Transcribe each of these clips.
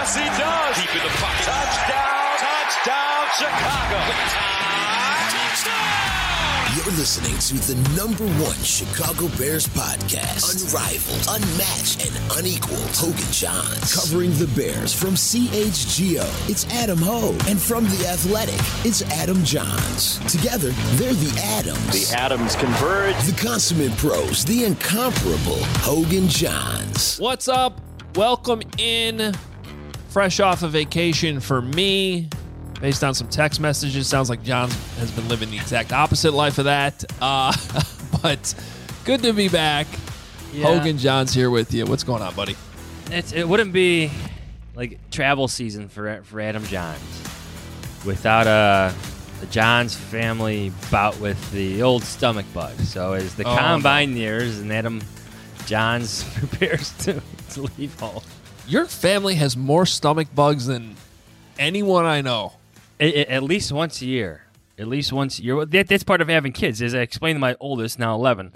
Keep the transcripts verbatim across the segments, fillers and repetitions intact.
Yes, he does. Deep in the pocket. Touchdown. Touchdown, Chicago. You're listening to the number one Chicago Bears podcast. Unrivaled, unmatched, and unequaled. Hogan Johns. Covering the Bears from C H G O, it's Adam Ho. And from The Athletic, it's Adam Johns. Together, they're the Adams. The Adams converge. The consummate pros, the incomparable Hogan Johns. What's up? Welcome in. Fresh off a vacation for me. Based on some text messages, sounds like John has been living the exact opposite life of that. Uh, but good to be back. Yeah. Hogan Johns here with you. What's going on, buddy? It's, it wouldn't be like travel season for for Adam Johns without a the Johns family bout with the old stomach bug. So as the oh, combine no. nears and Adam Johns prepares to, to leave home. Your family has more stomach bugs than anyone I know. At least once a year. At least once a year. That, that's part of having kids. As I explained to my oldest, now eleven,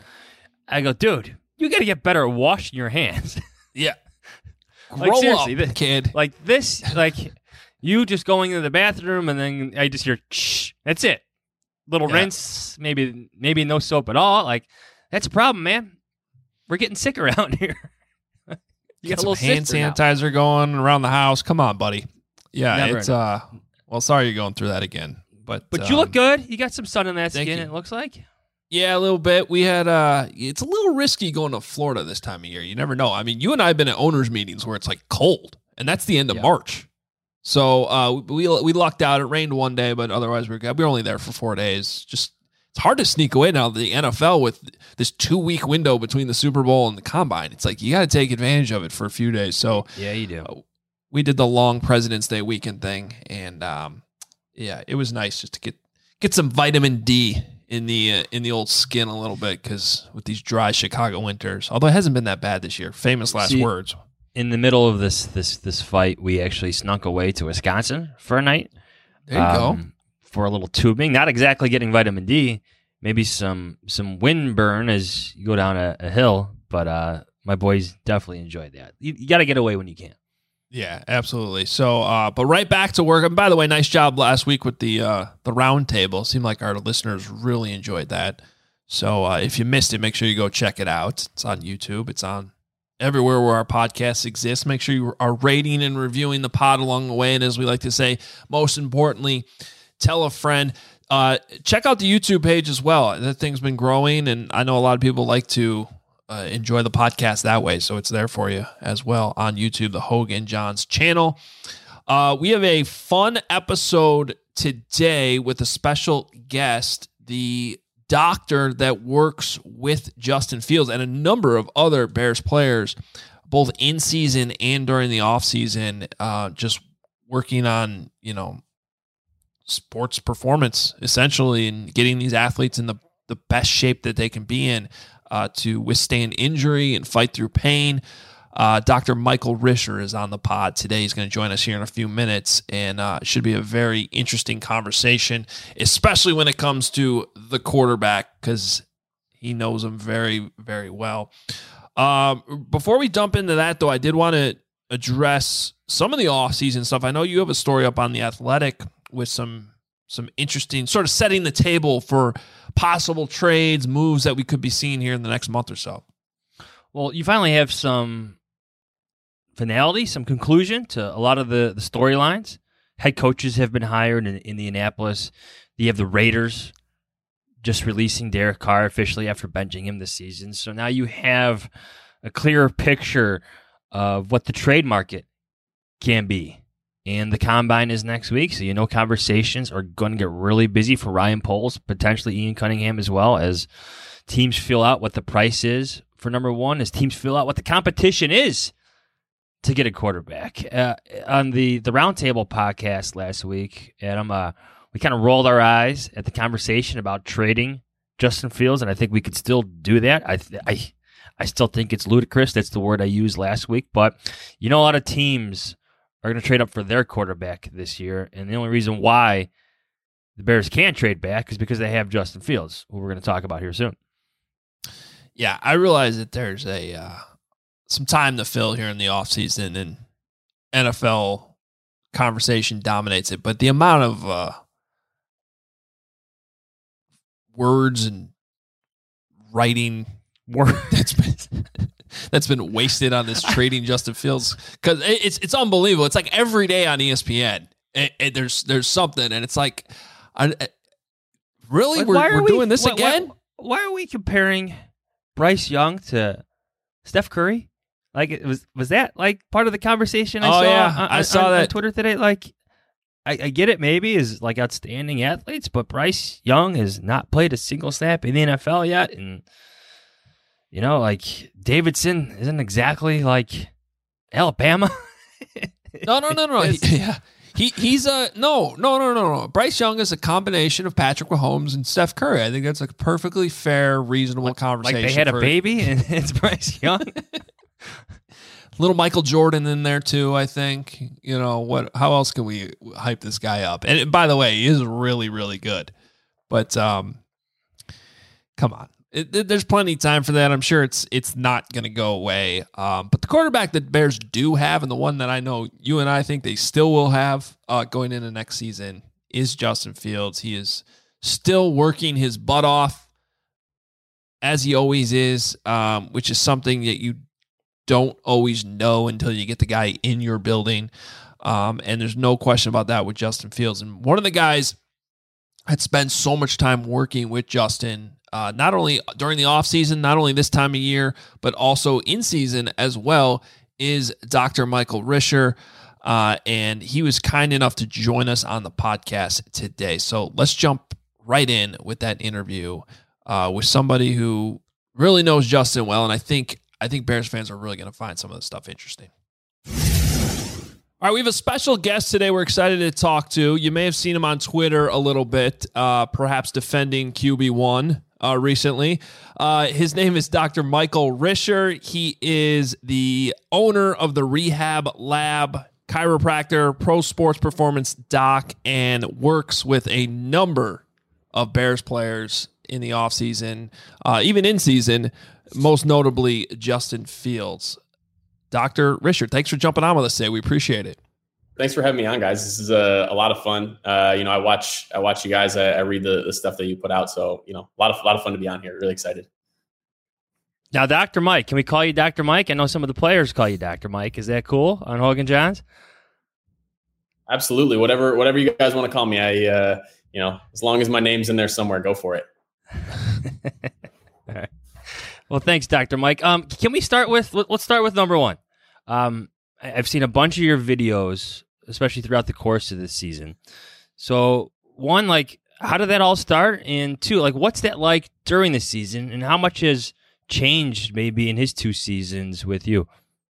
I go, dude, you got to get better at washing your hands. Yeah. Like, Grow seriously, up, this, kid. Like this, like you just going into the bathroom and then I just hear, shh. That's it. Little yeah. rinse, maybe maybe no soap at all. Like, that's a problem, man. We're getting sick around here. You get got some a little hand sanitizer now. Going around the house. Come on, buddy. Yeah, Never it's uh. Well, sorry you're going through that again, but but um, you look good. You got some sun in that skin. you. It looks like. Yeah, a little bit. We had uh, it's a little risky going to Florida this time of year. You never know. I mean, you and I have been at owners' meetings where it's like cold, and that's the end of yeah. March. So uh, we we lucked out. It rained one day, but otherwise we we're good. We were only there for four days. Just it's hard to sneak away now. The N F L with this two week window between the Super Bowl and the Combine. It's like you got to take advantage of it for a few days. So yeah, you do. Uh, we did the long President's Day weekend thing, and um. Yeah, it was nice just to get get some vitamin D in the uh, in the old skin a little bit because with these dry Chicago winters, although it hasn't been that bad this year. Famous last See, words. In the middle of this this this fight, we actually snuck away to Wisconsin for a night. There you um, go. For a little tubing, not exactly getting vitamin D, maybe some some wind burn as you go down a, a hill, but uh, my boys definitely enjoyed that. You, you got to get away when you can. Yeah, absolutely. So, uh, but right back to work. And by the way, nice job last week with the uh, the round table. Seemed like our listeners really enjoyed that. So uh, if you missed it, make sure you go check it out. It's on YouTube. It's on everywhere where our podcasts exist. Make sure you are rating and reviewing the pod along the way. And as we like to say, most importantly, tell a friend. Uh, check out the YouTube page as well. That thing's been growing, and I know a lot of people like to Uh, enjoy the podcast that way, so it's there for you as well on YouTube, the Hogan Johns channel. Uh, we have a fun episode today with a special guest, the doctor that works with Justin Fields and a number of other Bears players, both in season and during the off season, uh, just working on, you know, sports performance essentially and getting these athletes in the, the best shape that they can be in. Uh, to withstand injury and fight through pain. Uh, Doctor Michael Risher is on the pod today. He's going to join us here in a few minutes, and uh, it should be a very interesting conversation, especially when it comes to the quarterback, because he knows him very, very well. Um, before we jump into that, though, I did want to address some of the offseason stuff. I know you have a story up on The Athletic with some some interesting, sort of setting the table for possible trades, moves that we could be seeing here in the next month or so. Well, you finally have some finality, some conclusion to a lot of the, the storylines. Head coaches have been hired in Indianapolis. You have the Raiders just releasing Derek Carr officially after benching him this season. So now you have a clearer picture of what the trade market can be. And the Combine is next week, so you know conversations are going to get really busy for Ryan Poles, potentially Ian Cunningham as well, as teams fill out what the price is for number one, as teams fill out what the competition is to get a quarterback. Uh, on the, the Roundtable podcast last week, Adam, uh, we kind of rolled our eyes at the conversation about trading Justin Fields, and I think we could still do that. I I, I still think it's ludicrous. That's the word I used last week. But you know, a lot of teams are going to trade up for their quarterback this year, and the only reason why the Bears can't trade back is because they have Justin Fields, who we're going to talk about here soon. Yeah, I realize that there's a uh, some time to fill here in the offseason, and N F L conversation dominates it, but the amount of uh, words and writing Word. that's been that's been wasted on this trading Justin Fields, because it's it's unbelievable. It's like every day on E S P N, it, it, there's there's something, and it's like, I, I, really, Like, we're, why are we're we- doing this why- again? Why, why are we comparing Bryce Young to Steph Curry? Like, it was was that like part of the conversation I Oh, saw? yeah. on, I saw on, that. on Twitter today. Like, I, I get it, maybe is like outstanding athletes, but Bryce Young has not played a single snap in the N F L yet, and you know, like Davidson isn't exactly like Alabama. No, no, no, no. He, yeah. He he's a no, no, no, no, no. Bryce Young is a combination of Patrick Mahomes and Steph Curry. I think that's a perfectly fair, reasonable Like conversation. they had a for- baby and it's Bryce Young. Little Michael Jordan in there too, I think. You know what? How else can we hype this guy up? And by the way, he is really, really good. But um, come on, it, it, there's plenty of time for that. I'm sure it's it's not going to go away. Um, but the quarterback that Bears do have, and the one that I know you and I think they still will have uh, going into next season, is Justin Fields. He is still working his butt off, as he always is, um, which is something that you don't always know until you get the guy in your building. Um, and there's no question about that with Justin Fields. And one of the guys that spent so much time working with Justin, uh, not only during the offseason, not only this time of year, but also in season as well, is Doctor Michael Risher. Uh, and he was kind enough to join us on the podcast today. So let's jump right in with that interview uh, with somebody who really knows Justin well. And I think I think Bears fans are really going to find some of this stuff interesting. All right, we have a special guest today we're excited to talk to. You may have seen him on Twitter a little bit, uh, perhaps defending Q B one uh, recently. Uh, his name is Doctor Michael Risher. He is the owner of the Rehab Lab, chiropractor, pro sports performance doc, and works with a number of Bears players in the offseason, uh, even in season, most notably Justin Fields. Doctor Risher, thanks for jumping on with us today. We appreciate it. Thanks for having me on, guys. This is a, a lot of fun. Uh, you know, I watch I watch you guys. I, I read the, the stuff that you put out. So, you know, a lot of a lot of fun to be on here. Really excited. Now, Doctor Mike, can we call you Doctor Mike? I know some of the players call you Doctor Mike. Is that cool on Hogan Johns? Absolutely. Whatever whatever you guys want to call me. I uh, you know, as long as my name's in there somewhere, go for it. All right. Well, thanks, Doctor Mike. Um, can we start with, let's start with number one. Um, I've seen a bunch of your videos, especially throughout the course of this season. So one, like, how did that all start? And two, like, what's that like during the season, and how much has changed maybe in his two seasons with you?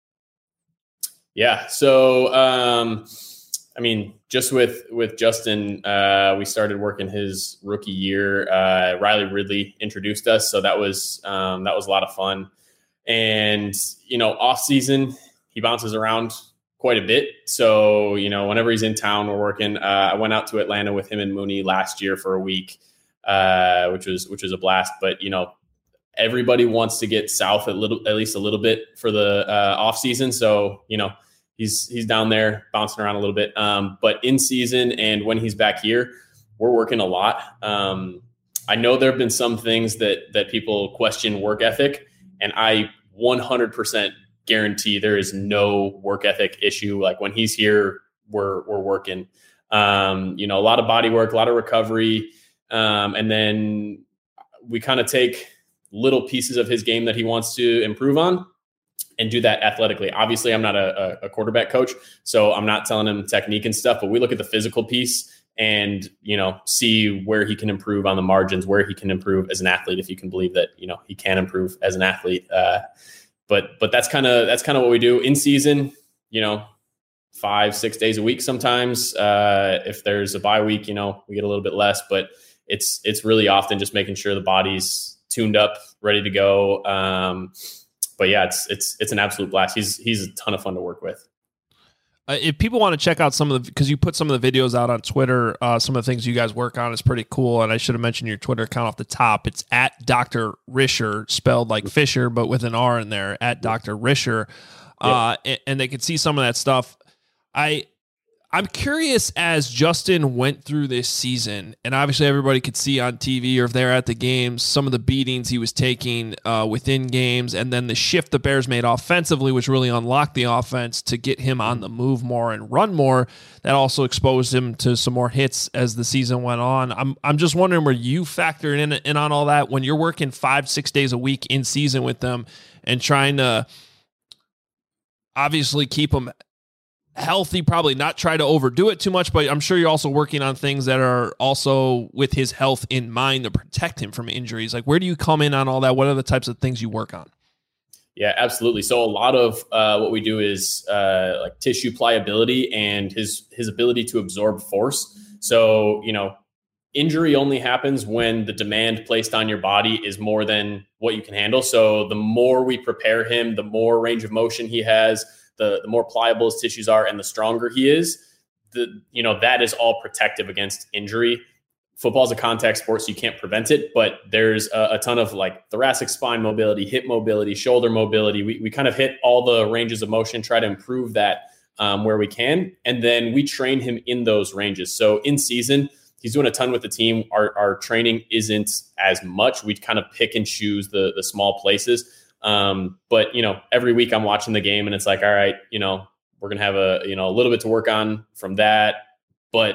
Yeah. So, um, I mean, just with, with Justin, uh, we started working his rookie year. Uh, Riley Ridley introduced us. So that was, um, that was a lot of fun. And, you know, off season, he bounces around quite a bit. So, you know, whenever he's in town, we're working. Uh, I went out to Atlanta with him and Mooney last year for a week, uh, which was, which was a blast. But, you know, everybody wants to get south a little, at least a little bit for the uh, off season. So, you know, He's he's down there bouncing around a little bit. Um, but in season and when he's back here, we're working a lot. Um, I know there have been some things that that people question work ethic, and I one hundred percent guarantee there is no work ethic issue. Like when he's here, we're we're working. Um, you know, a lot of body work, a lot of recovery, um, and then we kind of take little pieces of his game that he wants to improve on and do that athletically. Obviously, I'm not a, a quarterback coach, so I'm not telling him technique and stuff, but we look at the physical piece and, you know, see where he can improve on the margins, where he can improve as an athlete, if you can believe that, you know, he can improve as an athlete. Uh, but, but that's kind of, that's kind of what we do in season, you know, five, six days a week. Sometimes, uh, if there's a bye week, you know, we get a little bit less, but it's, it's really often just making sure the body's tuned up, ready to go. Um, But yeah, it's it's it's an absolute blast. He's he's a ton of fun to work with. Uh, if people want to check out some of the, because you put some of the videos out on Twitter, uh, some of the things you guys work on is pretty cool. And I should have mentioned your Twitter account off the top. It's at Doctor Risher, spelled like Fisher, but with an R in there, at Doctor Risher. Uh, and, and they can see some of that stuff. I I'm curious, as Justin went through this season, and obviously everybody could see on T V or if they're at the games, some of the beatings he was taking uh, within games, and then the shift the Bears made offensively, which really unlocked the offense to get him on the move more and run more. That also exposed him to some more hits as the season went on. I'm I'm just wondering where you factor in, in on all that when you're working five, six days a week in season with them and trying to obviously keep them healthy, probably not try to overdo it too much, but I'm sure you're also working on things that are also with his health in mind to protect him from injuries. Like, where do you come in on all that? What are the types of things you work on? Yeah, absolutely. So a lot of uh, what we do is uh, like tissue pliability and his his ability to absorb force. So, you know, injury only happens when the demand placed on your body is more than what you can handle. So the more we prepare him, the more range of motion he has, the, the more pliable his tissues are, and the stronger he is, the, you know, that is all protective against injury. Football is a contact sport, so you can't prevent it, but there's a, a ton of like thoracic spine mobility, hip mobility, shoulder mobility. We, we kind of hit all the ranges of motion, try to improve that um, where we can. And then we train him in those ranges. So in season, he's doing a ton with the team. Our, our training isn't as much. We kind of pick and choose the, the small places. Um, but, you know, every week I'm watching the game and it's like, all right, you know, we're going to have a, you know, a little bit to work on from that. But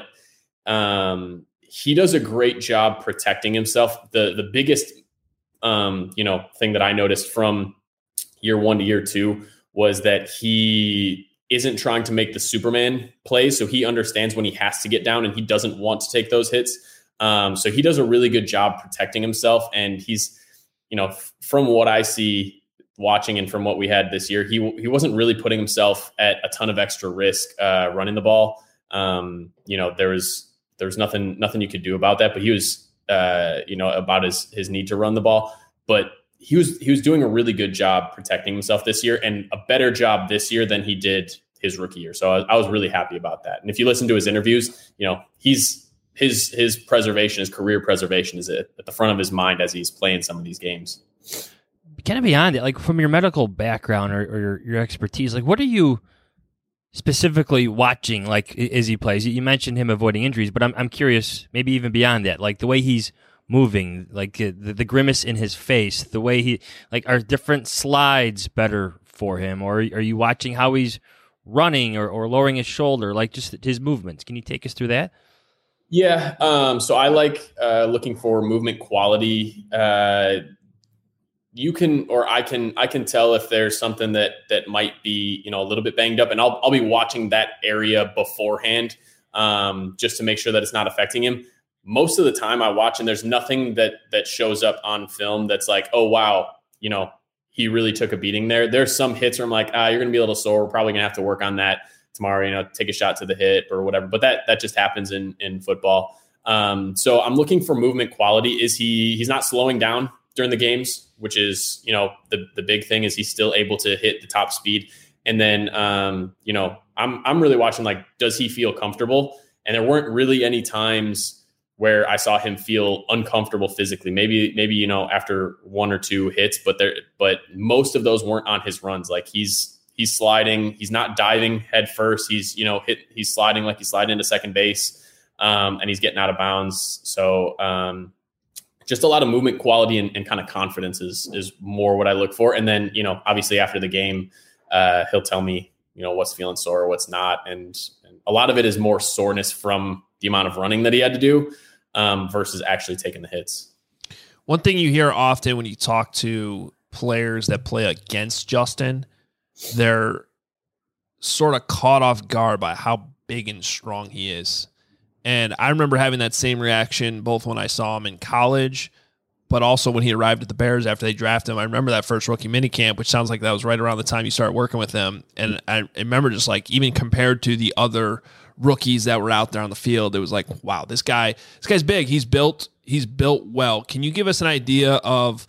um, he does a great job protecting himself. The, the biggest, um, you know, thing that I noticed from year one to year two was that he isn't trying to make the Superman plays. So he understands when he has to get down and he doesn't want to take those hits. Um, so he does a really good job protecting himself. And he's, you know, f- from what I see watching and from what we had this year, he he wasn't really putting himself at a ton of extra risk uh, running the ball. Um, you know, there was there was nothing nothing you could do about that. But he was, uh, you know, about his his need to run the ball. But he was he was doing a really good job protecting himself this year, and a better job this year than he did his rookie year. So I, I was really happy about that. And if you listen to his interviews, you know, he's his his preservation, his career preservation is at the front of his mind as he's playing some of these games. Kind of beyond it, like from your medical background or, or your, your expertise, like what are you specifically watching, like as he plays? You mentioned him avoiding injuries, but I'm I'm curious, maybe even beyond that, like the way he's moving, like the, the grimace in his face, the way he, like, are different slides better for him, or are you watching how he's running or, or lowering his shoulder, like just his movements? Can you take us through that? Yeah. Um, so I like uh, looking for movement quality. Uh, you can, or I can, I can tell if there's something that, that might be, you know, a little bit banged up, and I'll, I'll be watching that area beforehand um, just to make sure that it's not affecting him. Most of the time I watch and there's nothing that, that shows up on film that's like, oh, wow, you know, he really took a beating there. There's some hits where I'm like, ah, you're going to be a little sore. We're probably going to have to work on that tomorrow, you know, take a shot to the hip or whatever. But that, that just happens in, in football. Um, so I'm looking for movement quality. Is he, he's not slowing down during the games, which is, you know, the, the big thing is he's still able to hit the top speed. And then, um, you know, I'm, I'm really watching, like, does he feel comfortable? And there weren't really any times where I saw him feel uncomfortable physically. Maybe, maybe, you know, after one or two hits, but there, but most of those weren't on his runs. Like he's, he's sliding, he's not diving head first. He's, you know, hit, he's sliding like he's sliding into second base, um, and he's getting out of bounds. So um, just a lot of movement quality and, and kind of confidence is, is more what I look for. And then, you know, obviously after the game, uh, he'll tell me, you know, what's feeling sore or what's not. And, and a lot of it is more soreness from the amount of running that he had to do. Um, versus actually taking the hits. One thing you hear often when you talk to players that play against Justin, they're sort of caught off guard by how big and strong he is. And I remember having that same reaction both when I saw him in college, but also when he arrived at the Bears after they drafted him. I remember that first rookie minicamp, which sounds like that was right around the time you started working with him. And I remember just like, even compared to the other rookies that were out there on the field, it was like, wow, this guy, this guy's big. He's built, he's built well. Can you give us an idea of,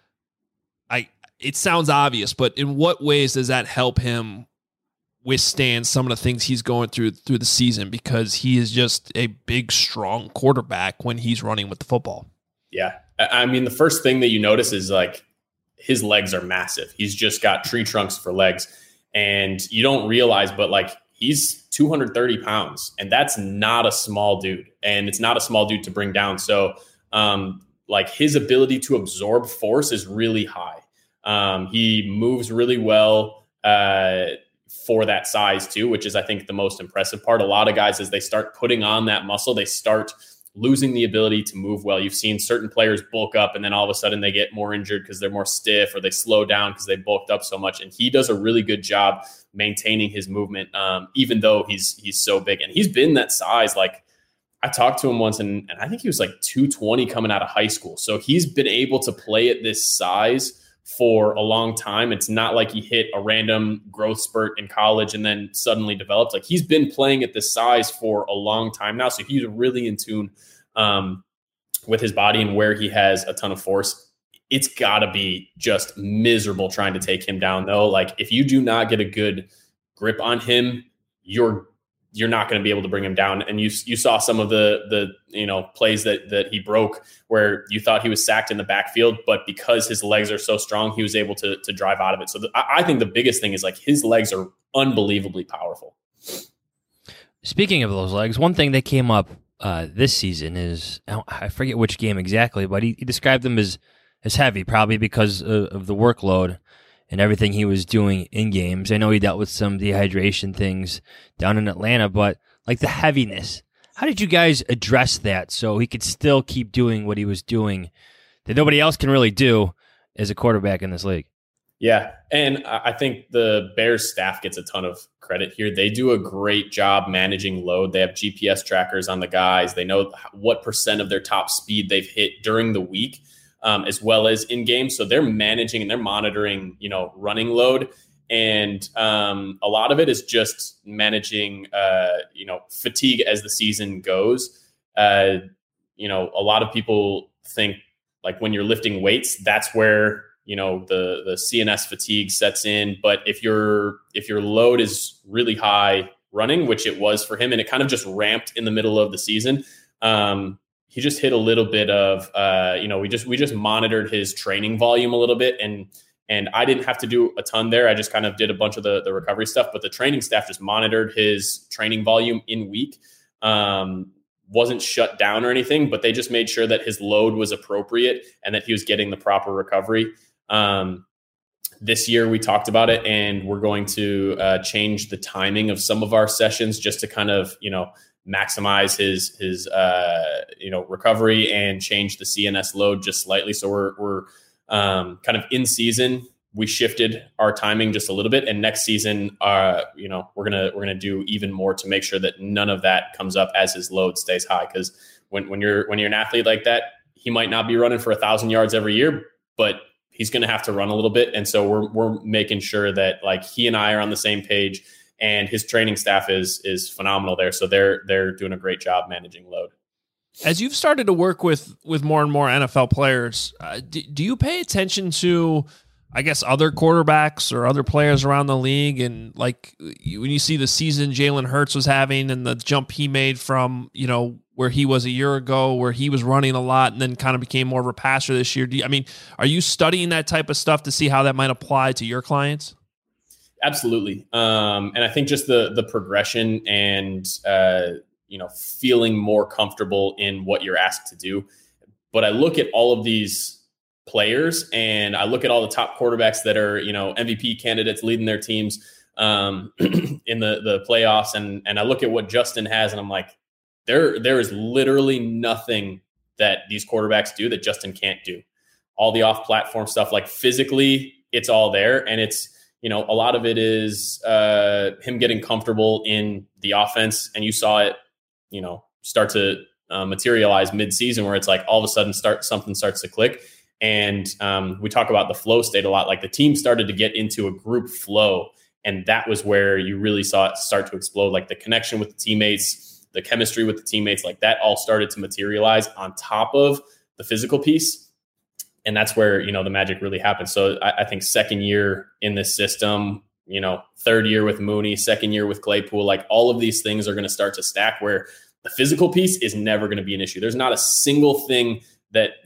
I, it sounds obvious, but in what ways does that help him withstand some of the things he's going through through the season? Because he is just a big, strong quarterback when he's running with the football. Yeah. I mean, the first thing that you notice is like his legs are massive. He's just got tree trunks for legs, and you don't realize, but like, he's two hundred thirty pounds, and that's not a small dude, and it's not a small dude to bring down. So um, like his ability to absorb force is really high. Um, he moves really well uh, for that size too, which is, I think, the most impressive part. A lot of guys, as they start putting on that muscle, they start losing the ability to move well. You've seen certain players bulk up and then all of a sudden they get more injured because they're more stiff, or they slow down because they bulked up so much. And he does a really good job maintaining his movement, um, even though he's he's so big. And he's been that size. Like, I talked to him once, and, and I think he was like two twenty coming out of high school. So he's been able to play at this size for a long time. It's not like he hit a random growth spurt in college and then suddenly developed. Like, he's been playing at this size for a long time now. So he's really in tune um, with his body and where he has a ton of force. It's got to be just miserable trying to take him down, though. Like, if you do not get a good grip on him, you're you're not going to be able to bring him down. And you you saw some of the the you know plays that that he broke where you thought he was sacked in the backfield, but because his legs are so strong, he was able to to drive out of it. So the, I think the biggest thing is, like, his legs are unbelievably powerful. Speaking of those legs, one thing that came up uh, this season is, I forget which game exactly, but he, he described them as as heavy, probably because of, of the workload and everything he was doing in games. I know he dealt with some dehydration things down in Atlanta, but like the heaviness, how did you guys address that so he could still keep doing what he was doing that nobody else can really do as a quarterback in this league? Yeah, and I think the Bears staff gets a ton of credit here. They do a great job managing load. They have G P S trackers on the guys. They know what percent of their top speed they've hit during the week, Um, as well as in game. So they're managing and they're monitoring, you know, running load. And um, a lot of it is just managing, uh, you know, fatigue as the season goes. Uh, you know, a lot of people think, like, when you're lifting weights, that's where, you know, the, the C N S fatigue sets in. But if your, if your load is really high running, which it was for him, and it kind of just ramped in the middle of the season, um, he just hit a little bit of, uh, you know, we just we just monitored his training volume a little bit, and and I didn't have to do a ton there. I just kind of did a bunch of the the recovery stuff, but the training staff just monitored his training volume in week. Um, wasn't shut down or anything, but they just made sure that his load was appropriate and that he was getting the proper recovery. Um, this year we talked about it, and we're going to uh, change the timing of some of our sessions just to kind of, you know, maximize his his uh, you know recovery and change the C N S load just slightly. So we're we're um, kind of in season. We shifted our timing just a little bit, and next season, uh, you know, we're gonna we're gonna do even more to make sure that none of that comes up as his load stays high. Because when when you're when you're an athlete like that, he might not be running for a thousand yards every year, but he's gonna have to run a little bit, and so we're we're making sure that, like, he and I are on the same page. And his training staff is is phenomenal there. So they're they're doing a great job managing load. As you've started to work with with more and more N F L players, uh, do, do you pay attention to, I guess, other quarterbacks or other players around the league? And, like, when you see the season Jalen Hurts was having and the jump he made from, you know, where he was a year ago, where he was running a lot and then kind of became more of a passer this year. Do you, I mean, are you studying that type of stuff to see how that might apply to your clients? Absolutely. Um, and I think just the the progression and, uh, you know, feeling more comfortable in what you're asked to do. But I look at all of these players, and I look at all the top quarterbacks that are, you know, M V P candidates leading their teams um, in the, the playoffs. And, and I look at what Justin has, and I'm like, there there is literally nothing that these quarterbacks do that Justin can't do. All the off-platform stuff, like, physically, it's all there. And it's, you know, a lot of it is uh, him getting comfortable in the offense. And you saw it, you know, start to uh, materialize mid-season, where it's like all of a sudden start something starts to click. And um, we talk about the flow state a lot. Like, the team started to get into a group flow, and that was where you really saw it start to explode. Like, the connection with the teammates, the chemistry with the teammates, like, that all started to materialize on top of the physical piece. And that's where, you know, the magic really happens. So I, I think second year in this system, you know, third year with Mooney, second year with Claypool, like, all of these things are going to start to stack where the physical piece is never going to be an issue. There's not a single thing that that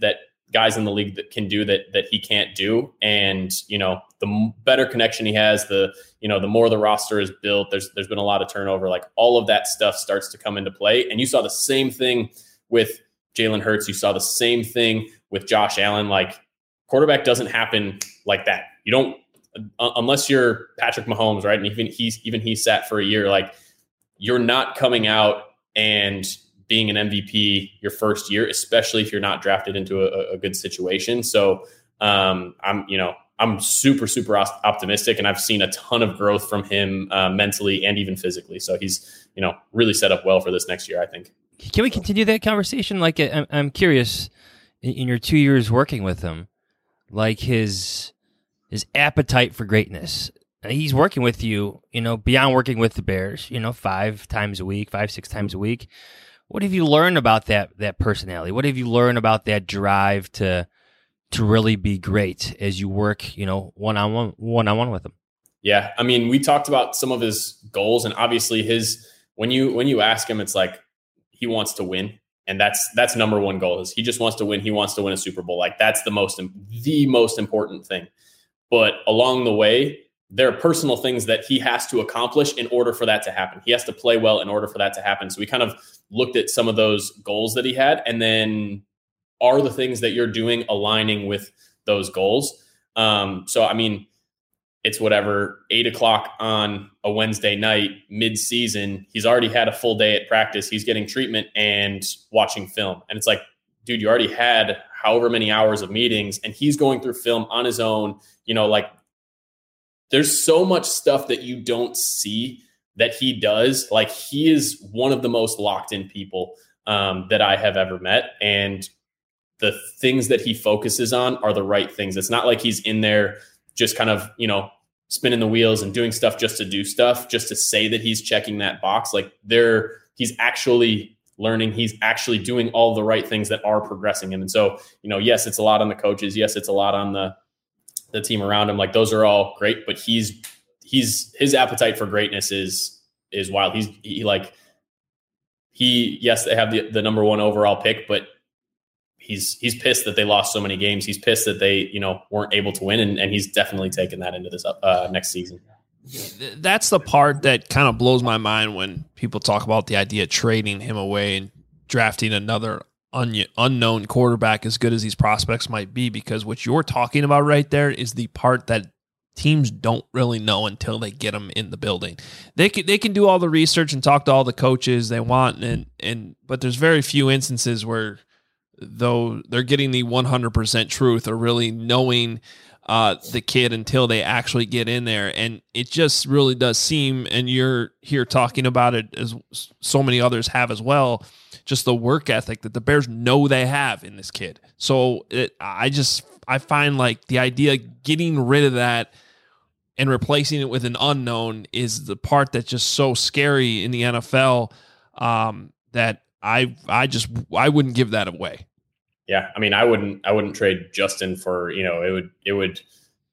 guys in the league that can do that that he can't do. And, you know, the better connection he has, the, you know, the more the roster is built, there's there's been a lot of turnover. Like all of that stuff starts to come into play. And you saw the same thing with Jalen Hurts. You saw the same thing with Josh Allen. Like quarterback doesn't happen like that. You don't, uh, unless you're Patrick Mahomes, right? And even he's even he sat for a year. Like you're not coming out and being an M V P your first year, especially if you're not drafted into a, a good situation. So um, I'm, you know, I'm super, super optimistic, and I've seen a ton of growth from him uh, mentally and even physically. So he's, you know, really set up well for this next year, I think. Can we continue that conversation? Like, I'm, I'm curious, in your two years working with him, like his his appetite for greatness. He's working with you, you know, beyond working with the Bears, you know, five times a week, five, six times a week. What have you learned about that that personality? What have you learned about that drive to to really be great as you work, you know, one on one, one on one with him? Yeah, I mean, we talked about some of his goals, and obviously his when you when you ask him, it's like he wants to win, and that's that's number one goal. Is he just wants to win? He wants to win a Super Bowl. Like that's the most the most important thing. But along the way, there are personal things that he has to accomplish in order for that to happen. He has to play well in order for that to happen. So we kind of looked at some of those goals that he had, and then are the things that you're doing aligning with those goals? Um, so, I mean, it's whatever, eight o'clock on a Wednesday night, mid-season. He's already had a full day at practice. He's getting treatment and watching film. And it's like, dude, you already had however many hours of meetings, and he's going through film on his own, you know, like, there's so much stuff that you don't see that he does. Like he is one of the most locked in people um, that I have ever met. And the things that he focuses on are the right things. It's not like he's in there just kind of, you know, spinning the wheels and doing stuff just to do stuff, just to say that he's checking that box. Like there, he's actually learning. He's actually doing all the right things that are progressing him. And so, you know, yes, it's a lot on the coaches. Yes, it's a lot on the, the team around him. Like those are all great, but he's, he's, his appetite for greatness is, is wild. He's he like, he, yes, they have the, the number one overall pick, but he's, he's pissed that they lost so many games. He's pissed that they, you know, weren't able to win. And, and he's definitely taken that into this uh, next season. That's the part that kind of blows my mind when people talk about the idea of trading him away and drafting another un- unknown quarterback as good as these prospects might be, because what you're talking about right there is the part that teams don't really know until they get them in the building. They can, they can do all the research and talk to all the coaches they want, and and but there's very few instances where though they're getting the one hundred percent truth or really knowing uh, the kid until they actually get in there. And it just really does seem, and you're here talking about it as so many others have as well, just the work ethic that the Bears know they have in this kid. So it, I just, I find like the idea of getting rid of that and replacing it with an unknown is the part that's just so scary in the N F L um, that I, I just, I wouldn't give that away. Yeah. I mean, I wouldn't, I wouldn't trade Justin for, you know, it would, it would,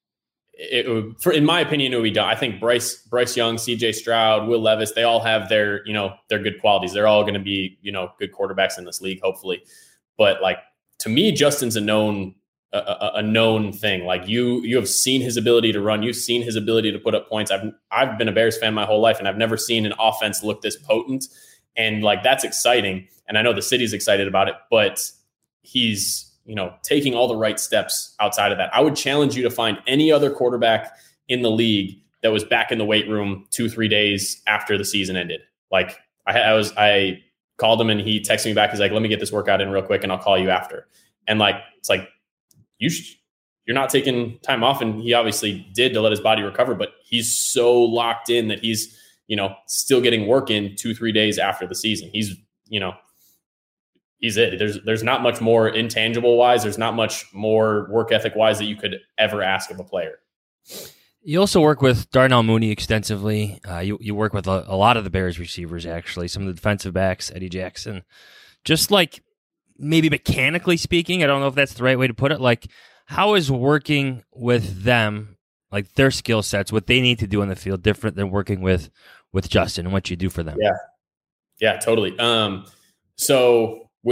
it would, for, in my opinion, it would be done. I think Bryce, Bryce Young, C J Stroud, Will Levis, they all have their, you know, their good qualities. They're all going to be, you know, good quarterbacks in this league, hopefully. But like, to me, Justin's a known, a, a known thing. Like you, you have seen his ability to run. You've seen his ability to put up points. I've, I've been a Bears fan my whole life, and I've never seen an offense look this potent. And like, that's exciting. And I know the city's excited about it, but he's, you know, taking all the right steps outside of that. I would challenge you to find any other quarterback in the league that was back in the weight room two, three days after the season ended. Like I, I was, I called him and he texted me back. He's like, let me get this workout in real quick and I'll call you after. And like, it's like, you should, you're not taking time off. And he obviously did to let his body recover, but he's so locked in that he's, you know, still getting work in two, three days after the season. He's, you know, he's it. There's there's not much more intangible wise. There's not much more work ethic wise that you could ever ask of a player. You also work with Darnell Mooney extensively. Uh, you you work with a, a lot of the Bears receivers, actually. Some of the defensive backs, Eddie Jackson. Just like maybe mechanically speaking, I don't know if that's the right way to put it. Like, how is working with them, like their skill sets, what they need to do on the field, different than working with with Justin and what you do for them? Yeah, yeah, totally. Um, so. With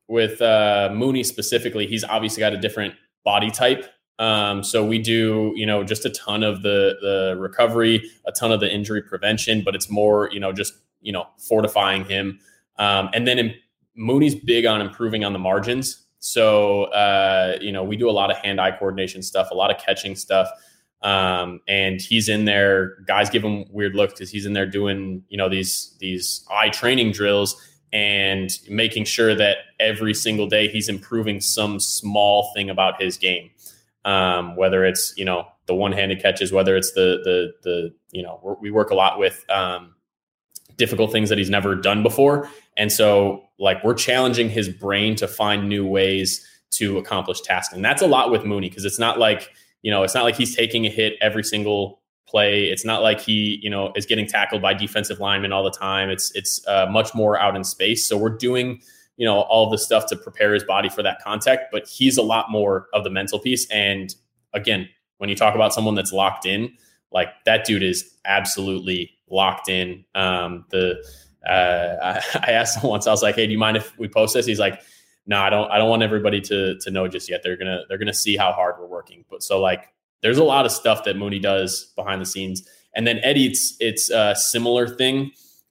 with uh, Mooney specifically, he's obviously got a different body type. Um, so we do, you know, just a ton of the the recovery, a ton of the injury prevention, but it's more, you know, just, you know, fortifying him. Um, and then in, Mooney's big on improving on the margins. So, uh, you know, we do a lot of hand-eye coordination stuff, a lot of catching stuff. Um, and he's in there, guys give him weird looks because he's in there doing, you know, these, these eye training drills and making sure that every single day he's improving some small thing about his game. Um, whether it's, you know, the one-handed catches, whether it's the, the, the, you know, we're, we work a lot with, um, difficult things that he's never done before. And so like we're challenging his brain to find new ways to accomplish tasks. And that's a lot with Mooney, because it's not like, you know, it's not like he's taking a hit every single play. It's not like he, you know, is getting tackled by defensive linemen all the time. It's, it's uh, much more out in space. So we're doing, you know, all the stuff to prepare his body for that contact, but he's a lot more of the mental piece. And again, when you talk about someone that's locked in, like that dude is absolutely locked in. Um, the, uh, I, I asked him once, I was like, hey, do you mind if we post this? He's like, no, I don't, I don't want everybody to, to know just yet. They're going to, they're going to see how hard we're working. But so like, there's a lot of stuff that Mooney does behind the scenes. And then Eddie, it's, it's a similar thing.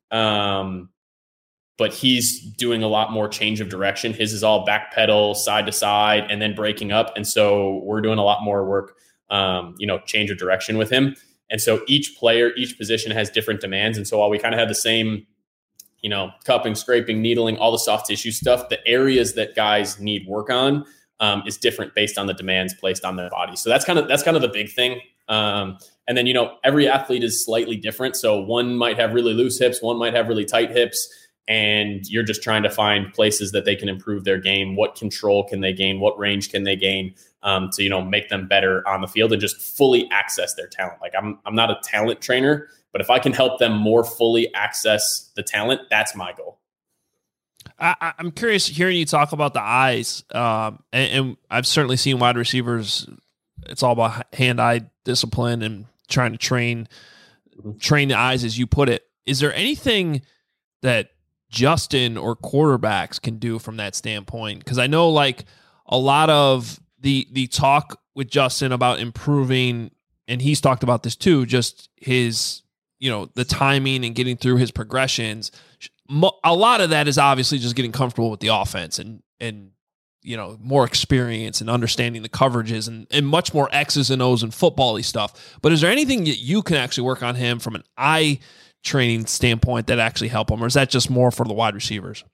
Um, but he's doing a lot more change of direction. His is all back pedal, side to side, and then breaking up. And so we're doing a lot more work, um, you know, change of direction with him. And so each player, each position has different demands. And so while we kind of have the same, you know, cupping, scraping, needling, all the soft tissue stuff, the areas that guys need work on um, is different based on the demands placed on their body. So that's kind of, that's kind of the big thing. Um, and then, you know, every athlete is slightly different. So one might have really loose hips, one might have really tight hips. And you're just trying to find places that they can improve their game. What control can they gain? What range can they gain um, to, you know, make them better on the field and just fully access their talent? Like I'm, I'm not a talent trainer, but if I can help them more fully access the talent, that's my goal. I, I'm curious hearing you talk about the eyes, um, and, and I've certainly seen wide receivers. It's all about hand-eye discipline and trying to train, train the eyes, as you put it. Is there anything that Justin or quarterbacks can do from that standpoint? Because I know like a lot of the the talk with Justin about improving, and he's talked about this too, just his, you know, the timing and getting through his progressions. A lot of that is obviously just getting comfortable with the offense and, and you know, more experience and understanding the coverages and, and much more X's and O's and football-y stuff. But is there anything that you can actually work on him from an eye training standpoint that actually help him, or is that just more for the wide receivers?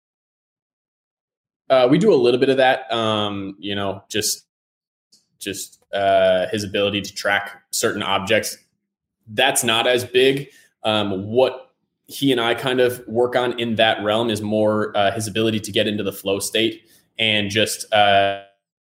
Uh, we do a little bit of that. Um, you know, just, just uh, his ability to track certain objects. That's not as big. Um, what he and I kind of work on in that realm is more uh, his ability to get into the flow state and just uh,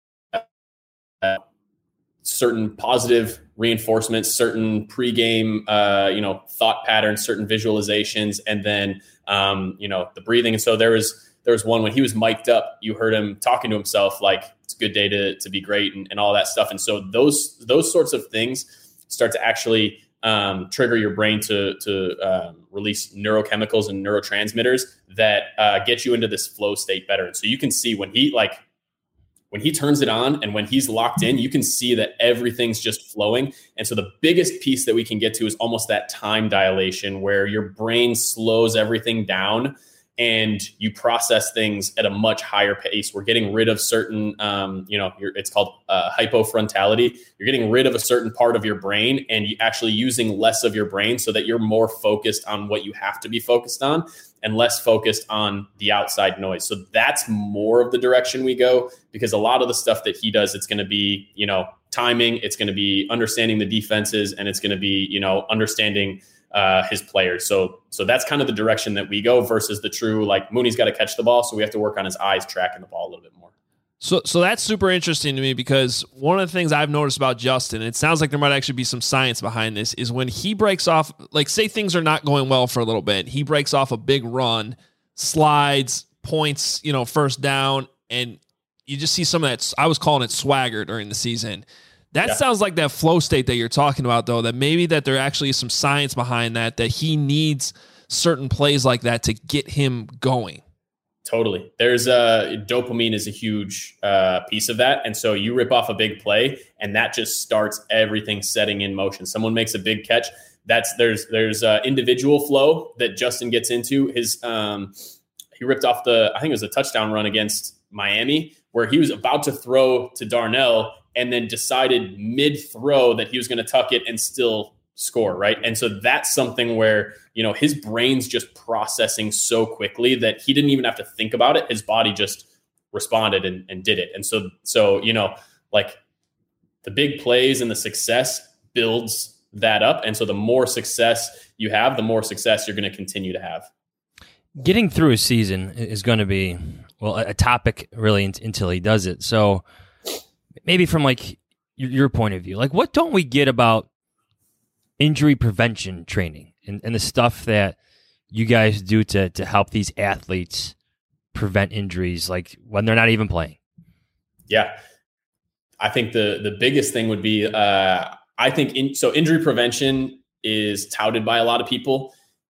uh, certain positive reinforcements, certain pregame, uh, you know, thought patterns, certain visualizations, and then, um, you know, the breathing. And so there was, there was one when he was mic'd up, you heard him talking to himself, like it's a good day to, to be great and, and all that stuff. And so those, those sorts of things start to actually um, trigger your brain to, to um, release neurochemicals and neurotransmitters that uh, get you into this flow state better. And so you can see when he like, when he turns it on and when he's locked in, you can see that everything's just flowing. And so the biggest piece that we can get to is almost that time dilation where your brain slows everything down and you process things at a much higher pace. We're getting rid of certain, um, you know, you're, it's called uh, hypofrontality. You're getting rid of a certain part of your brain and you actually using less of your brain so that you're more focused on what you have to be focused on and less focused on the outside noise. So that's more of the direction we go, because a lot of the stuff that he does, it's going to be, you know, timing, it's going to be understanding the defenses, and it's going to be, you know, understanding uh, his players. So, so that's kind of the direction that we go versus the true, like Mooney's got to catch the ball. So we have to work on his eyes tracking the ball a little bit more. So, so that's super interesting to me, because one of the things I've noticed about Justin, and it sounds like there might actually be some science behind this, is when he breaks off, like say things are not going well for a little bit, he breaks off a big run, slides, points, you know, first down, and you just see some of that. I was calling it swagger during the season. That yeah. sounds like that flow state that you're talking about, though, that maybe that there actually is some science behind that, that he needs certain plays like that to get him going. Totally. There's a dopamine is a huge uh, piece of that. And so you rip off a big play and that just starts everything setting in motion. Someone makes a big catch. That's there's, there's uh individual flow that Justin gets into his, um, he ripped off the, I think it was a touchdown run against Miami where he was about to throw to Darnell and then decided mid throw that he was going to tuck it and still score. Right. And so that's something where, you know, his brain's just processing so quickly that he didn't even have to think about it. His body just responded and, and did it. And so, so, you know, like the big plays and the success builds that up. And so the more success you have, the more success you're going to continue to have. Getting through a season is going to be, well, a topic really until he does it. So maybe from like your, your point of view, like what don't we get about injury prevention training and, and the stuff that you guys do to to help these athletes prevent injuries, like when they're not even playing? Yeah, I think the the biggest thing would be, uh, I think, in, so injury prevention is touted by a lot of people.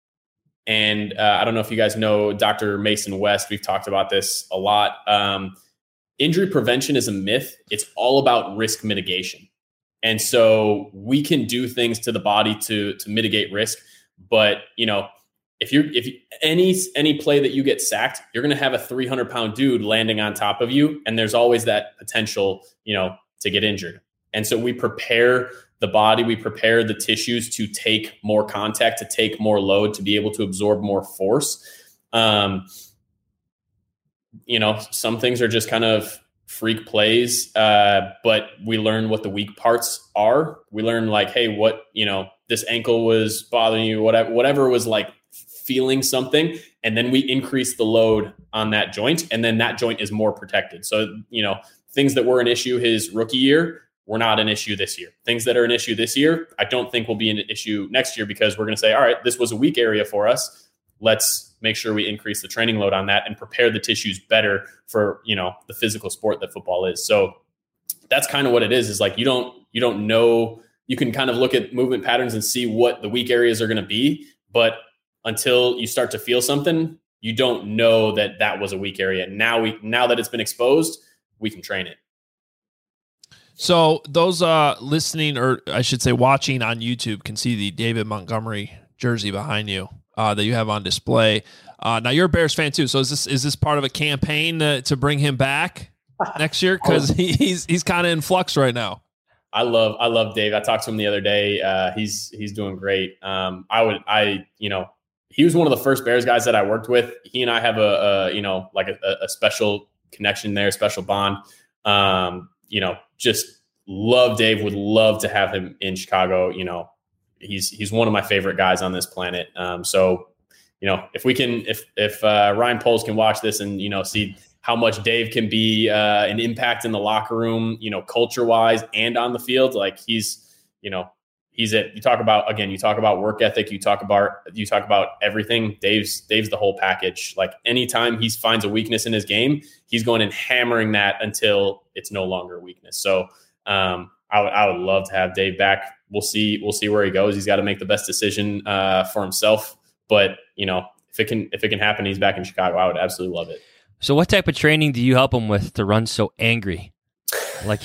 And uh, I don't know if you guys know Doctor Mason West. We've talked about this a lot. Um, injury prevention is a myth. It's all about risk mitigation. And so we can do things to the body to to mitigate risk. But, you know, if you're if you, any any play that you get sacked, you're going to have a three hundred pound dude landing on top of you. And there's always that potential, you know, to get injured. And so we prepare the body, we prepare the tissues to take more contact, to take more load, to be able to absorb more force. Um, you know, some things are just kind of freak plays, uh, but we learn what the weak parts are. We learn like, hey, what, you know, this ankle was bothering you, whatever, whatever was like feeling something. And then we increase the load on that joint. And then that joint is more protected. So, you know, things that were an issue his rookie year were not an issue this year. Things that are an issue this year, I don't think will be an issue next year because we're going to say, all right, this was a weak area for us. Let's make sure we increase the training load on that and prepare the tissues better for, you know, the physical sport that football is. So that's kind of what it is, is like, you don't, you don't know, you can kind of look at movement patterns and see what the weak areas are going to be. But until you start to feel something, you don't know that that was a weak area. Now we, now that it's been exposed, we can train it. So those uh, listening, or I should say watching on YouTube, can see the David Montgomery jersey behind you uh, that you have on display. Uh, now you're a Bears fan too, so is this is this part of a campaign to, to bring him back next year? Because he, he's he's kind of in flux right now. I love I love Dave. I talked to him the other day. Uh, he's he's doing great. Um, I would I you know he was one of the first Bears guys that I worked with. He and I have a, a you know like a, a special connection there, special bond. Um, you know, just love Dave. Would love to have him in Chicago. You know, he's he's one of my favorite guys on this planet. Um, so, you know, if we can, if if uh, Ryan Poles can watch this and, you know, see how much Dave can be uh, an impact in the locker room, you know, culture wise and on the field, like he's, you know, he's it. You talk about, again, you talk about work ethic, you talk about, you talk about everything. Dave's, Dave's the whole package. Like anytime he finds a weakness in his game, he's going and hammering that until it's no longer a weakness. So um, I would, I would love to have Dave back. We'll see, we'll see where he goes. He's got to make the best decision uh, for himself, but you know, if it can, if it can happen, he's back in Chicago. I would absolutely love it. So what type of training do you help him with to run so angry? Like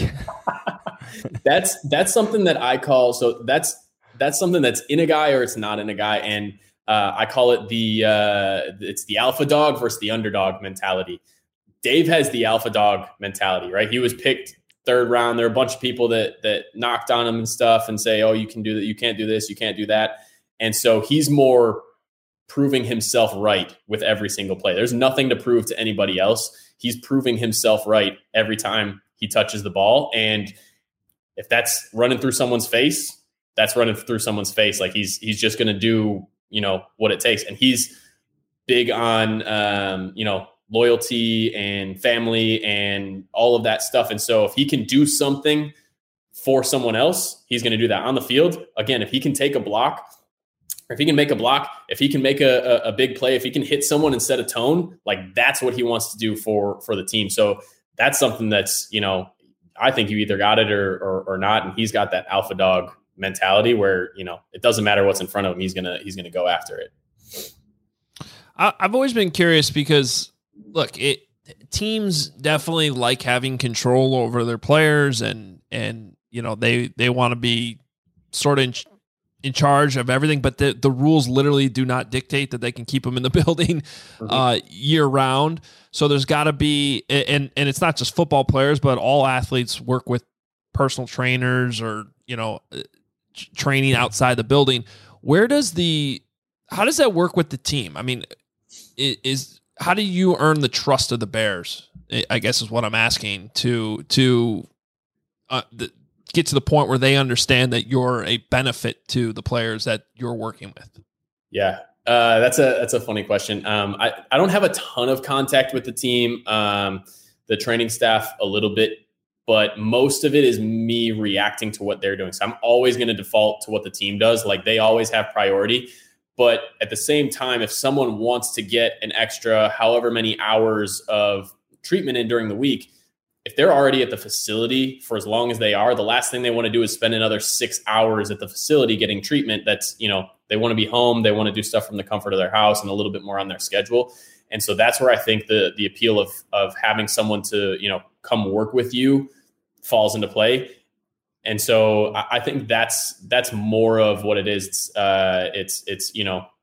that's that's something that I call so that's that's something that's in a guy or it's not in a guy, and uh, I call it the uh, it's the alpha dog versus the underdog mentality. Dave has the alpha dog mentality, right? He was picked third round. There are a bunch of people that that knocked on him and stuff and say, "Oh, you can do that. You can't do this. You can't do that." And so he's more proving himself right with every single play. There's nothing to prove to anybody else. He's proving himself right every time he touches the ball. And if that's running through someone's face, that's running through someone's face. Like he's, he's just going to do, you know, what it takes. And he's big on, um, you know, loyalty and family and all of that stuff. And so if he can do something for someone else, he's going to do that on the field. Again, if he can take a block, if he can make a block, if he can make a, a, a big play, if he can hit someone and set a tone, like that's what he wants to do for, for the team. So that's something that's, you know, I think you either got it or, or, or not. And he's got that alpha dog mentality where, you know, it doesn't matter what's in front of him. He's going to, he's going to go after it. I, I've always been curious because look, it teams definitely like having control over their players, and and you know they they want to be sort of in, in charge of everything, but the the rules literally do not dictate that they can keep them in the building mm-hmm. uh, year round. So there's got to be, and and it's not just football players, but all athletes work with personal trainers or you know training outside the building. Where does the how does that work with the team? I mean, is how do you earn the trust of the Bears? I guess is what I'm asking to to uh, the, get to the point where they understand that you're a benefit to the players that you're working with. Yeah, uh, that's a that's a funny question. Um, I I don't have a ton of contact with the team, um, the training staff a little bit, but most of it is me reacting to what they're doing. So I'm always going to default to what the team does. Like they always have priority. But at the same time, if someone wants to get an extra however many hours of treatment in during the week, if they're already at the facility for as long as they are, the last thing they want to do is spend another six hours at the facility getting treatment. That's, you know, they want to be home. They want to do stuff from the comfort of their house and a little bit more on their schedule. And so that's where I think the the appeal of of having someone to, you know, come work with you falls into play. And so I think that's that's more of what it is. It's, uh, it's it's you know,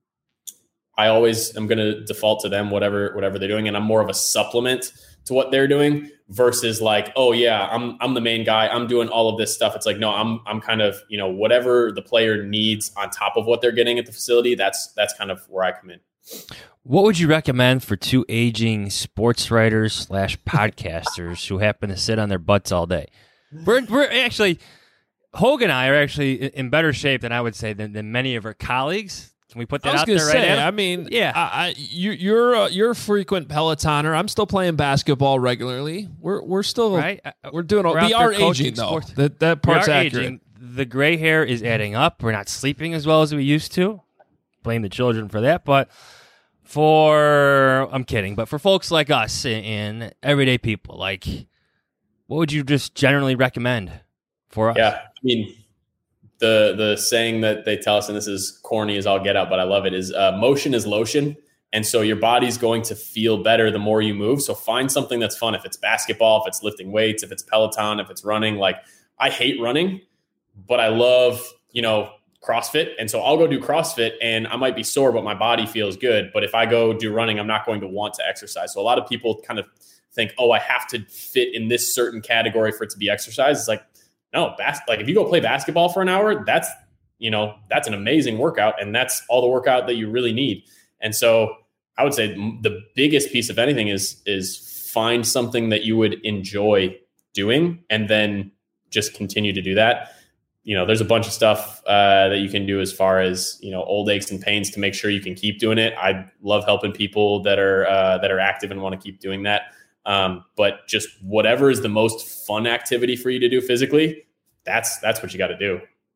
I always am going to default to them, whatever whatever they're doing, and I'm more of a supplement to what they're doing versus like, oh yeah, I'm I'm the main guy. I'm doing all of this stuff. It's like, no, I'm I'm kind of, you know, whatever the player needs on top of what they're getting at the facility. That's that's kind of where I come in. What would you recommend for two aging sports writers slash podcasters who happen to sit on their butts all day? We're we're actually Hogan and I are actually in better shape than I would say than, than many of our colleagues. Can we put that I was out gonna there say, right now? I mean, yeah, I, I, you, you're a, you're a frequent Pelotoner. I'm still playing basketball regularly. We're we're still right. We're doing. All, we're we are aging though. Sports. That that part's accurate. Aging. The gray hair is adding up. We're not sleeping as well as we used to. Blame the children for that, but. For, I'm kidding, but for folks like us and everyday people, like, what would you just generally recommend for us? Yeah, I mean, the the saying that they tell us, and this is corny as all get out, but I love it, is uh, motion is lotion. And so your body's going to feel better the more you move. So find something that's fun. If it's basketball, if it's lifting weights, if it's Peloton, if it's running. Like, I hate running, but I love, you know, CrossFit. And so I'll go do CrossFit and I might be sore, but my body feels good. But if I go do running, I'm not going to want to exercise. So a lot of people kind of think, oh, I have to fit in this certain category for it to be exercise. It's like, no, bas- like if you go play basketball for an hour, that's, you know, that's an amazing workout. And that's all the workout that you really need. And so I would say the biggest piece of anything is, is find something that you would enjoy doing and then just continue to do that. You know, there's a bunch of stuff uh, that you can do as far as, you know, old aches and pains to make sure you can keep doing it. I love helping people that are uh, that are active and want to keep doing that. Um, but just whatever is the most fun activity for you to do physically, that's that's what you got to do.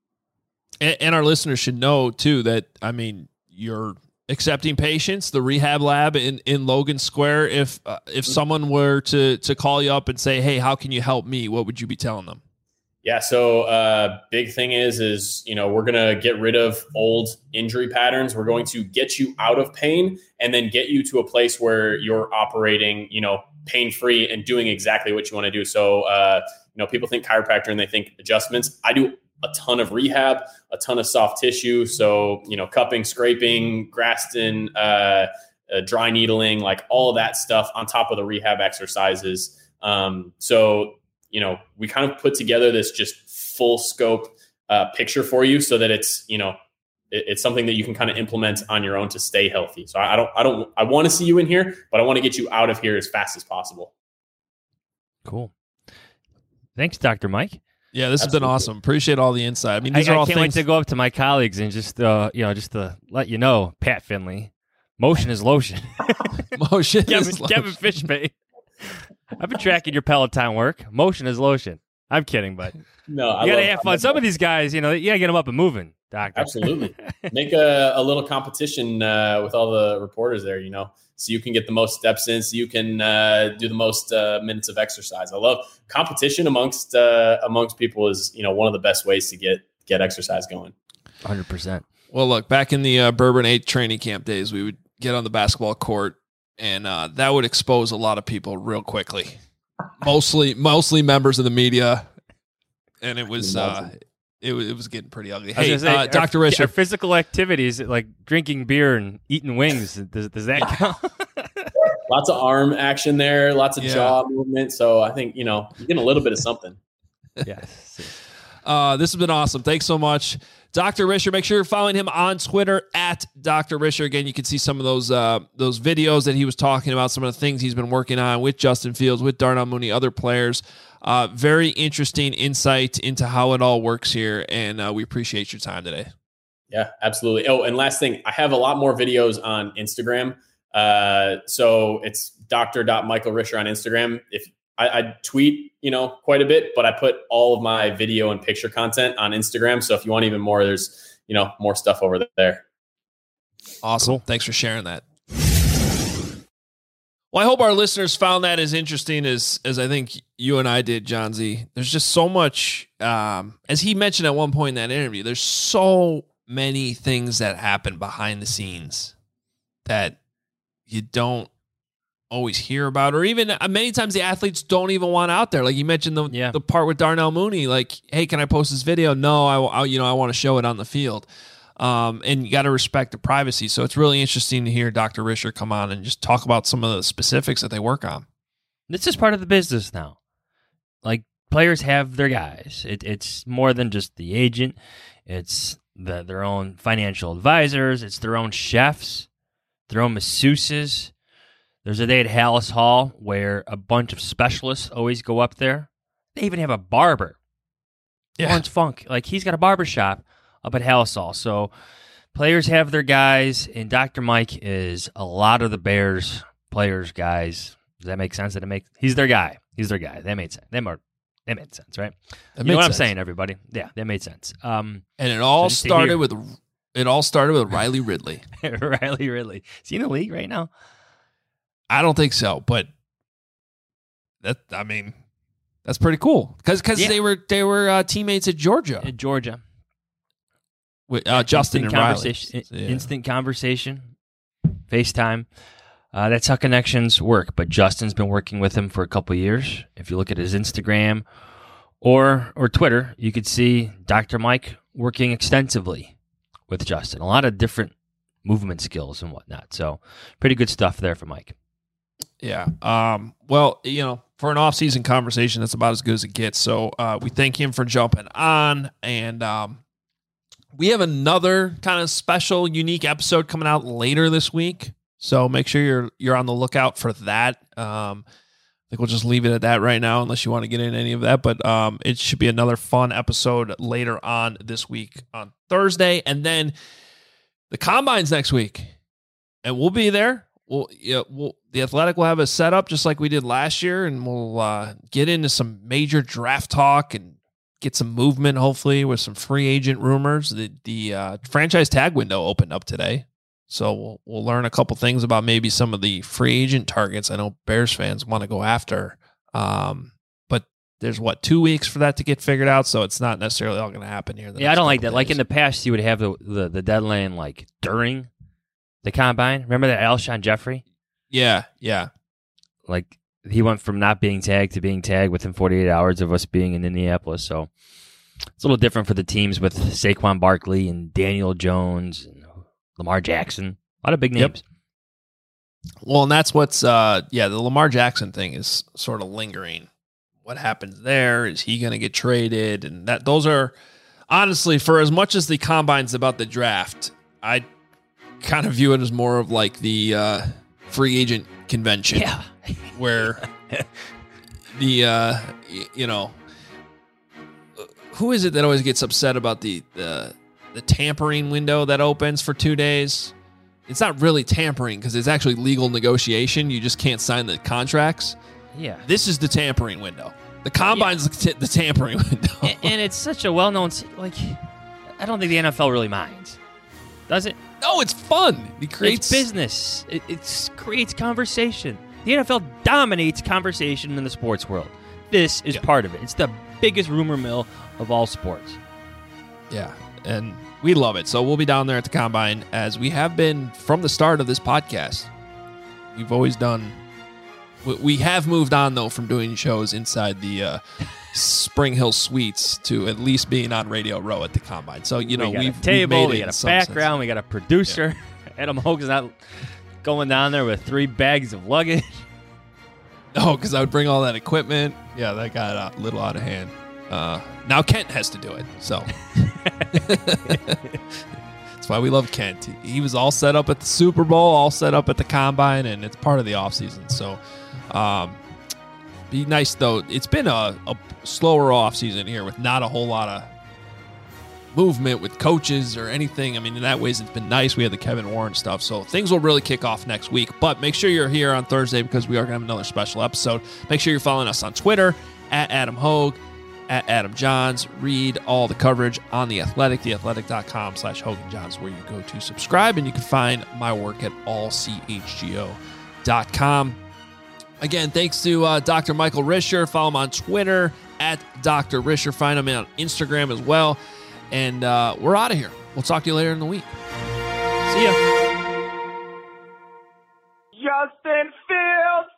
And, and our listeners should know too that, I mean, you're accepting patients, the rehab lab in, in Logan Square. If uh, if someone were to to call you up and say, hey, how can you help me? What would you be telling them? Yeah. So uh, big thing is, is, you know, we're going to get rid of old injury patterns. We're going to get you out of pain and then get you to a place where you're operating, you know, pain-free and doing exactly what you want to do. So, uh, you know, people think chiropractor and they think adjustments. I do a ton of rehab, a ton of soft tissue. So, you know, cupping, scraping, Graston, uh, uh, dry needling, like all of that stuff on top of the rehab exercises. Um, so, you know, we kind of put together this just full scope uh, picture for you so that it's, you know, it, it's something that you can kind of implement on your own to stay healthy. So I, I don't, I don't, I want to see you in here, but I want to get you out of here as fast as possible. Cool. Thanks, Doctor Mike. Yeah, this Absolutely. has been awesome. Appreciate all the insight. I mean, these I, are all I can't things wait to go up to my colleagues and just, uh, you know, just to let you know, Pat Finley, motion is lotion. Motion Kevin, is Kevin lotion. Fishbait. I've been tracking your Peloton work. Motion is lotion. I'm kidding, but no, I you gotta love, have fun. Some of these guys, you know, you gotta get them up and moving, Doctor. Absolutely. Make a, a little competition uh, with all the reporters there, you know, so you can get the most steps in, so you can uh, do the most uh, minutes of exercise. I love competition amongst uh, amongst people is, you know, one of the best ways to get get exercise going. one hundred percent. Well, look, back in the uh, Bourbon eight training camp days, we would get on the basketball court and uh, that would expose a lot of people real quickly. Mostly, mostly members of the media, and it was uh, it was it was getting pretty ugly. Hey, say, uh, Doctor Our, Risher, our physical activities like drinking beer and eating wings. Does, does that count? Lots of arm action there, lots of Yeah. jaw movement. So I think, you know, you're getting a little bit of something. Yes. uh, this has been awesome. Thanks so much, Doctor Risher. Make sure you're following him on Twitter at Doctor Risher. Again, you can see some of those uh, those videos that he was talking about, some of the things he's been working on with Justin Fields, with Darnell Mooney, other players. Uh, very interesting insight into how it all works here, and uh, we appreciate your time today. Yeah, absolutely. Oh, and last thing, I have a lot more videos on Instagram. Uh, so it's Doctor Michael Risher on Instagram. If I, I tweet, you know, quite a bit, but I put all of my video and picture content on Instagram. So if you want even more, there's, you know, more stuff over there. Awesome. Cool. Thanks for sharing that. Well, I hope our listeners found that as interesting as as I think you and I did, John Z. There's just so much, um, as he mentioned at one point in that interview, there's so many things that happen behind the scenes that you don't always hear about, or even uh, many times the athletes don't even want out there. Like you mentioned the Yeah. the part with Darnell Mooney, like, hey, can I post this video? No, I, I you know, I want to show it on the field. Um, and you got to respect the privacy. So it's really interesting to hear Doctor Risher come on and just talk about some of the specifics that they work on. This is part of the business now. Like players have their guys. It, it's more than just the agent. It's the, their own financial advisors. It's their own chefs, their own masseuses. There's a day at Hallis Hall where a bunch of specialists always go up there. They even have a barber. Yeah. Lawrence Funk. Like he's got a barber shop up at Hallis Hall. So players have their guys, and Doctor Mike is a lot of the Bears players' guys. Does that make sense? Did it make? He's their guy. He's their guy. That made sense. That made, that made sense, right? That you know what sense. I'm saying, everybody? Yeah, that made sense. Um, And it all So just to started hear- with it all started with Riley Ridley. Riley Ridley. Is he in the league right now? I don't think so, but that I mean, that's pretty cool because because Yeah. they were they were uh, teammates at Georgia At Georgia. with uh, Justin and instant Riley. conversation, Yeah. Instant conversation, FaceTime. Uh, that's how connections work. But Justin's been working with him for a couple of years. If you look at his Instagram or or Twitter, you could see Doctor Mike working extensively with Justin. A lot of different movement skills and whatnot. So pretty good stuff there for Mike. Yeah. Um, well, you know, for an off-season conversation, that's about as good as it gets. So uh, we thank him for jumping on, and um, we have another kind of special, unique episode coming out later this week. So make sure you're you're on the lookout for that. Um, I think we'll just leave it at that right now, unless you want to get into any of that. But um, it should be another fun episode later on this week on Thursday, and then the Combine's next week, and we'll be there. We'll, yeah, we'll, the Athletic will have a setup just like we did last year, and we'll uh, get into some major draft talk and get some movement, hopefully, with some free agent rumors. The the uh, franchise tag window opened up today, so we'll we'll learn a couple things about maybe some of the free agent targets I know Bears fans want to go after. Um, but there's, what, two weeks for that to get figured out, so it's not necessarily all going to happen here. Yeah, I don't like that. Like in the past, you would have the, the, the deadline like during the Combine. Remember that Alshon Jeffrey? Yeah, yeah. Like he went from not being tagged to being tagged within forty-eight hours of us being in Indianapolis. So it's a little different for the teams with Saquon Barkley and Daniel Jones and Lamar Jackson. A lot of big names. Yep. Well, and that's what's, uh, yeah, the Lamar Jackson thing is sort of lingering. What happens there? Is he going to get traded? And that those are, honestly, for as much as the Combine's about the draft, I kind of view it as more of like the uh, free agent convention. Yeah. Where the, uh, y- you know, who is it that always gets upset about the, the, the tampering window that opens for two days? It's not really tampering because it's actually legal negotiation. You just can't sign the contracts. Yeah. This is the tampering window. The Combine's the, t- the tampering window. and, and it's such a well-known, like, I don't think the N F L really minds. Does it? No, it's fun. It creates It's business. It it's, creates conversation. The N F L dominates conversation in the sports world. This is Yeah. part of it. It's the biggest rumor mill of all sports. Yeah, and we love it. So we'll be down there at the Combine, as we have been from the start of this podcast. we've always done. We, we have moved on though from doing shows inside the uh, Spring Hill Suites to at least being on Radio Row at the Combine. So you know we got we've a table, we've made we it got in a some background, sense. we got a producer. Yeah. Adam Hogan's not going down there with three bags of luggage. Oh, because I would bring all that equipment. Yeah, that got a little out of hand. Uh, now Kent has to do it, so that's why we love Kent. He, he was all set up at the Super Bowl, all set up at the Combine, and it's part of the offseason. So, um, be nice though. It's been a, a slower offseason here with not a whole lot of movement with coaches or anything. I mean, in that ways, it's been nice. We had the Kevin Warren stuff, so things will really kick off next week. But make sure you're here on Thursday because we are going to have another special episode. Make sure you're following us on Twitter at Adam Hogue, at Adam Johns. Read all the coverage on The Athletic, theathletic.com slash Hogan Johns, where you go to subscribe, and you can find my work at all c h g o dot com. Again, thanks to uh, Doctor Michael Risher. Follow him on Twitter at Doctor Risher. Find him on Instagram as well. And uh, we're out of here. We'll talk to you later in the week. See ya. Justin Fields.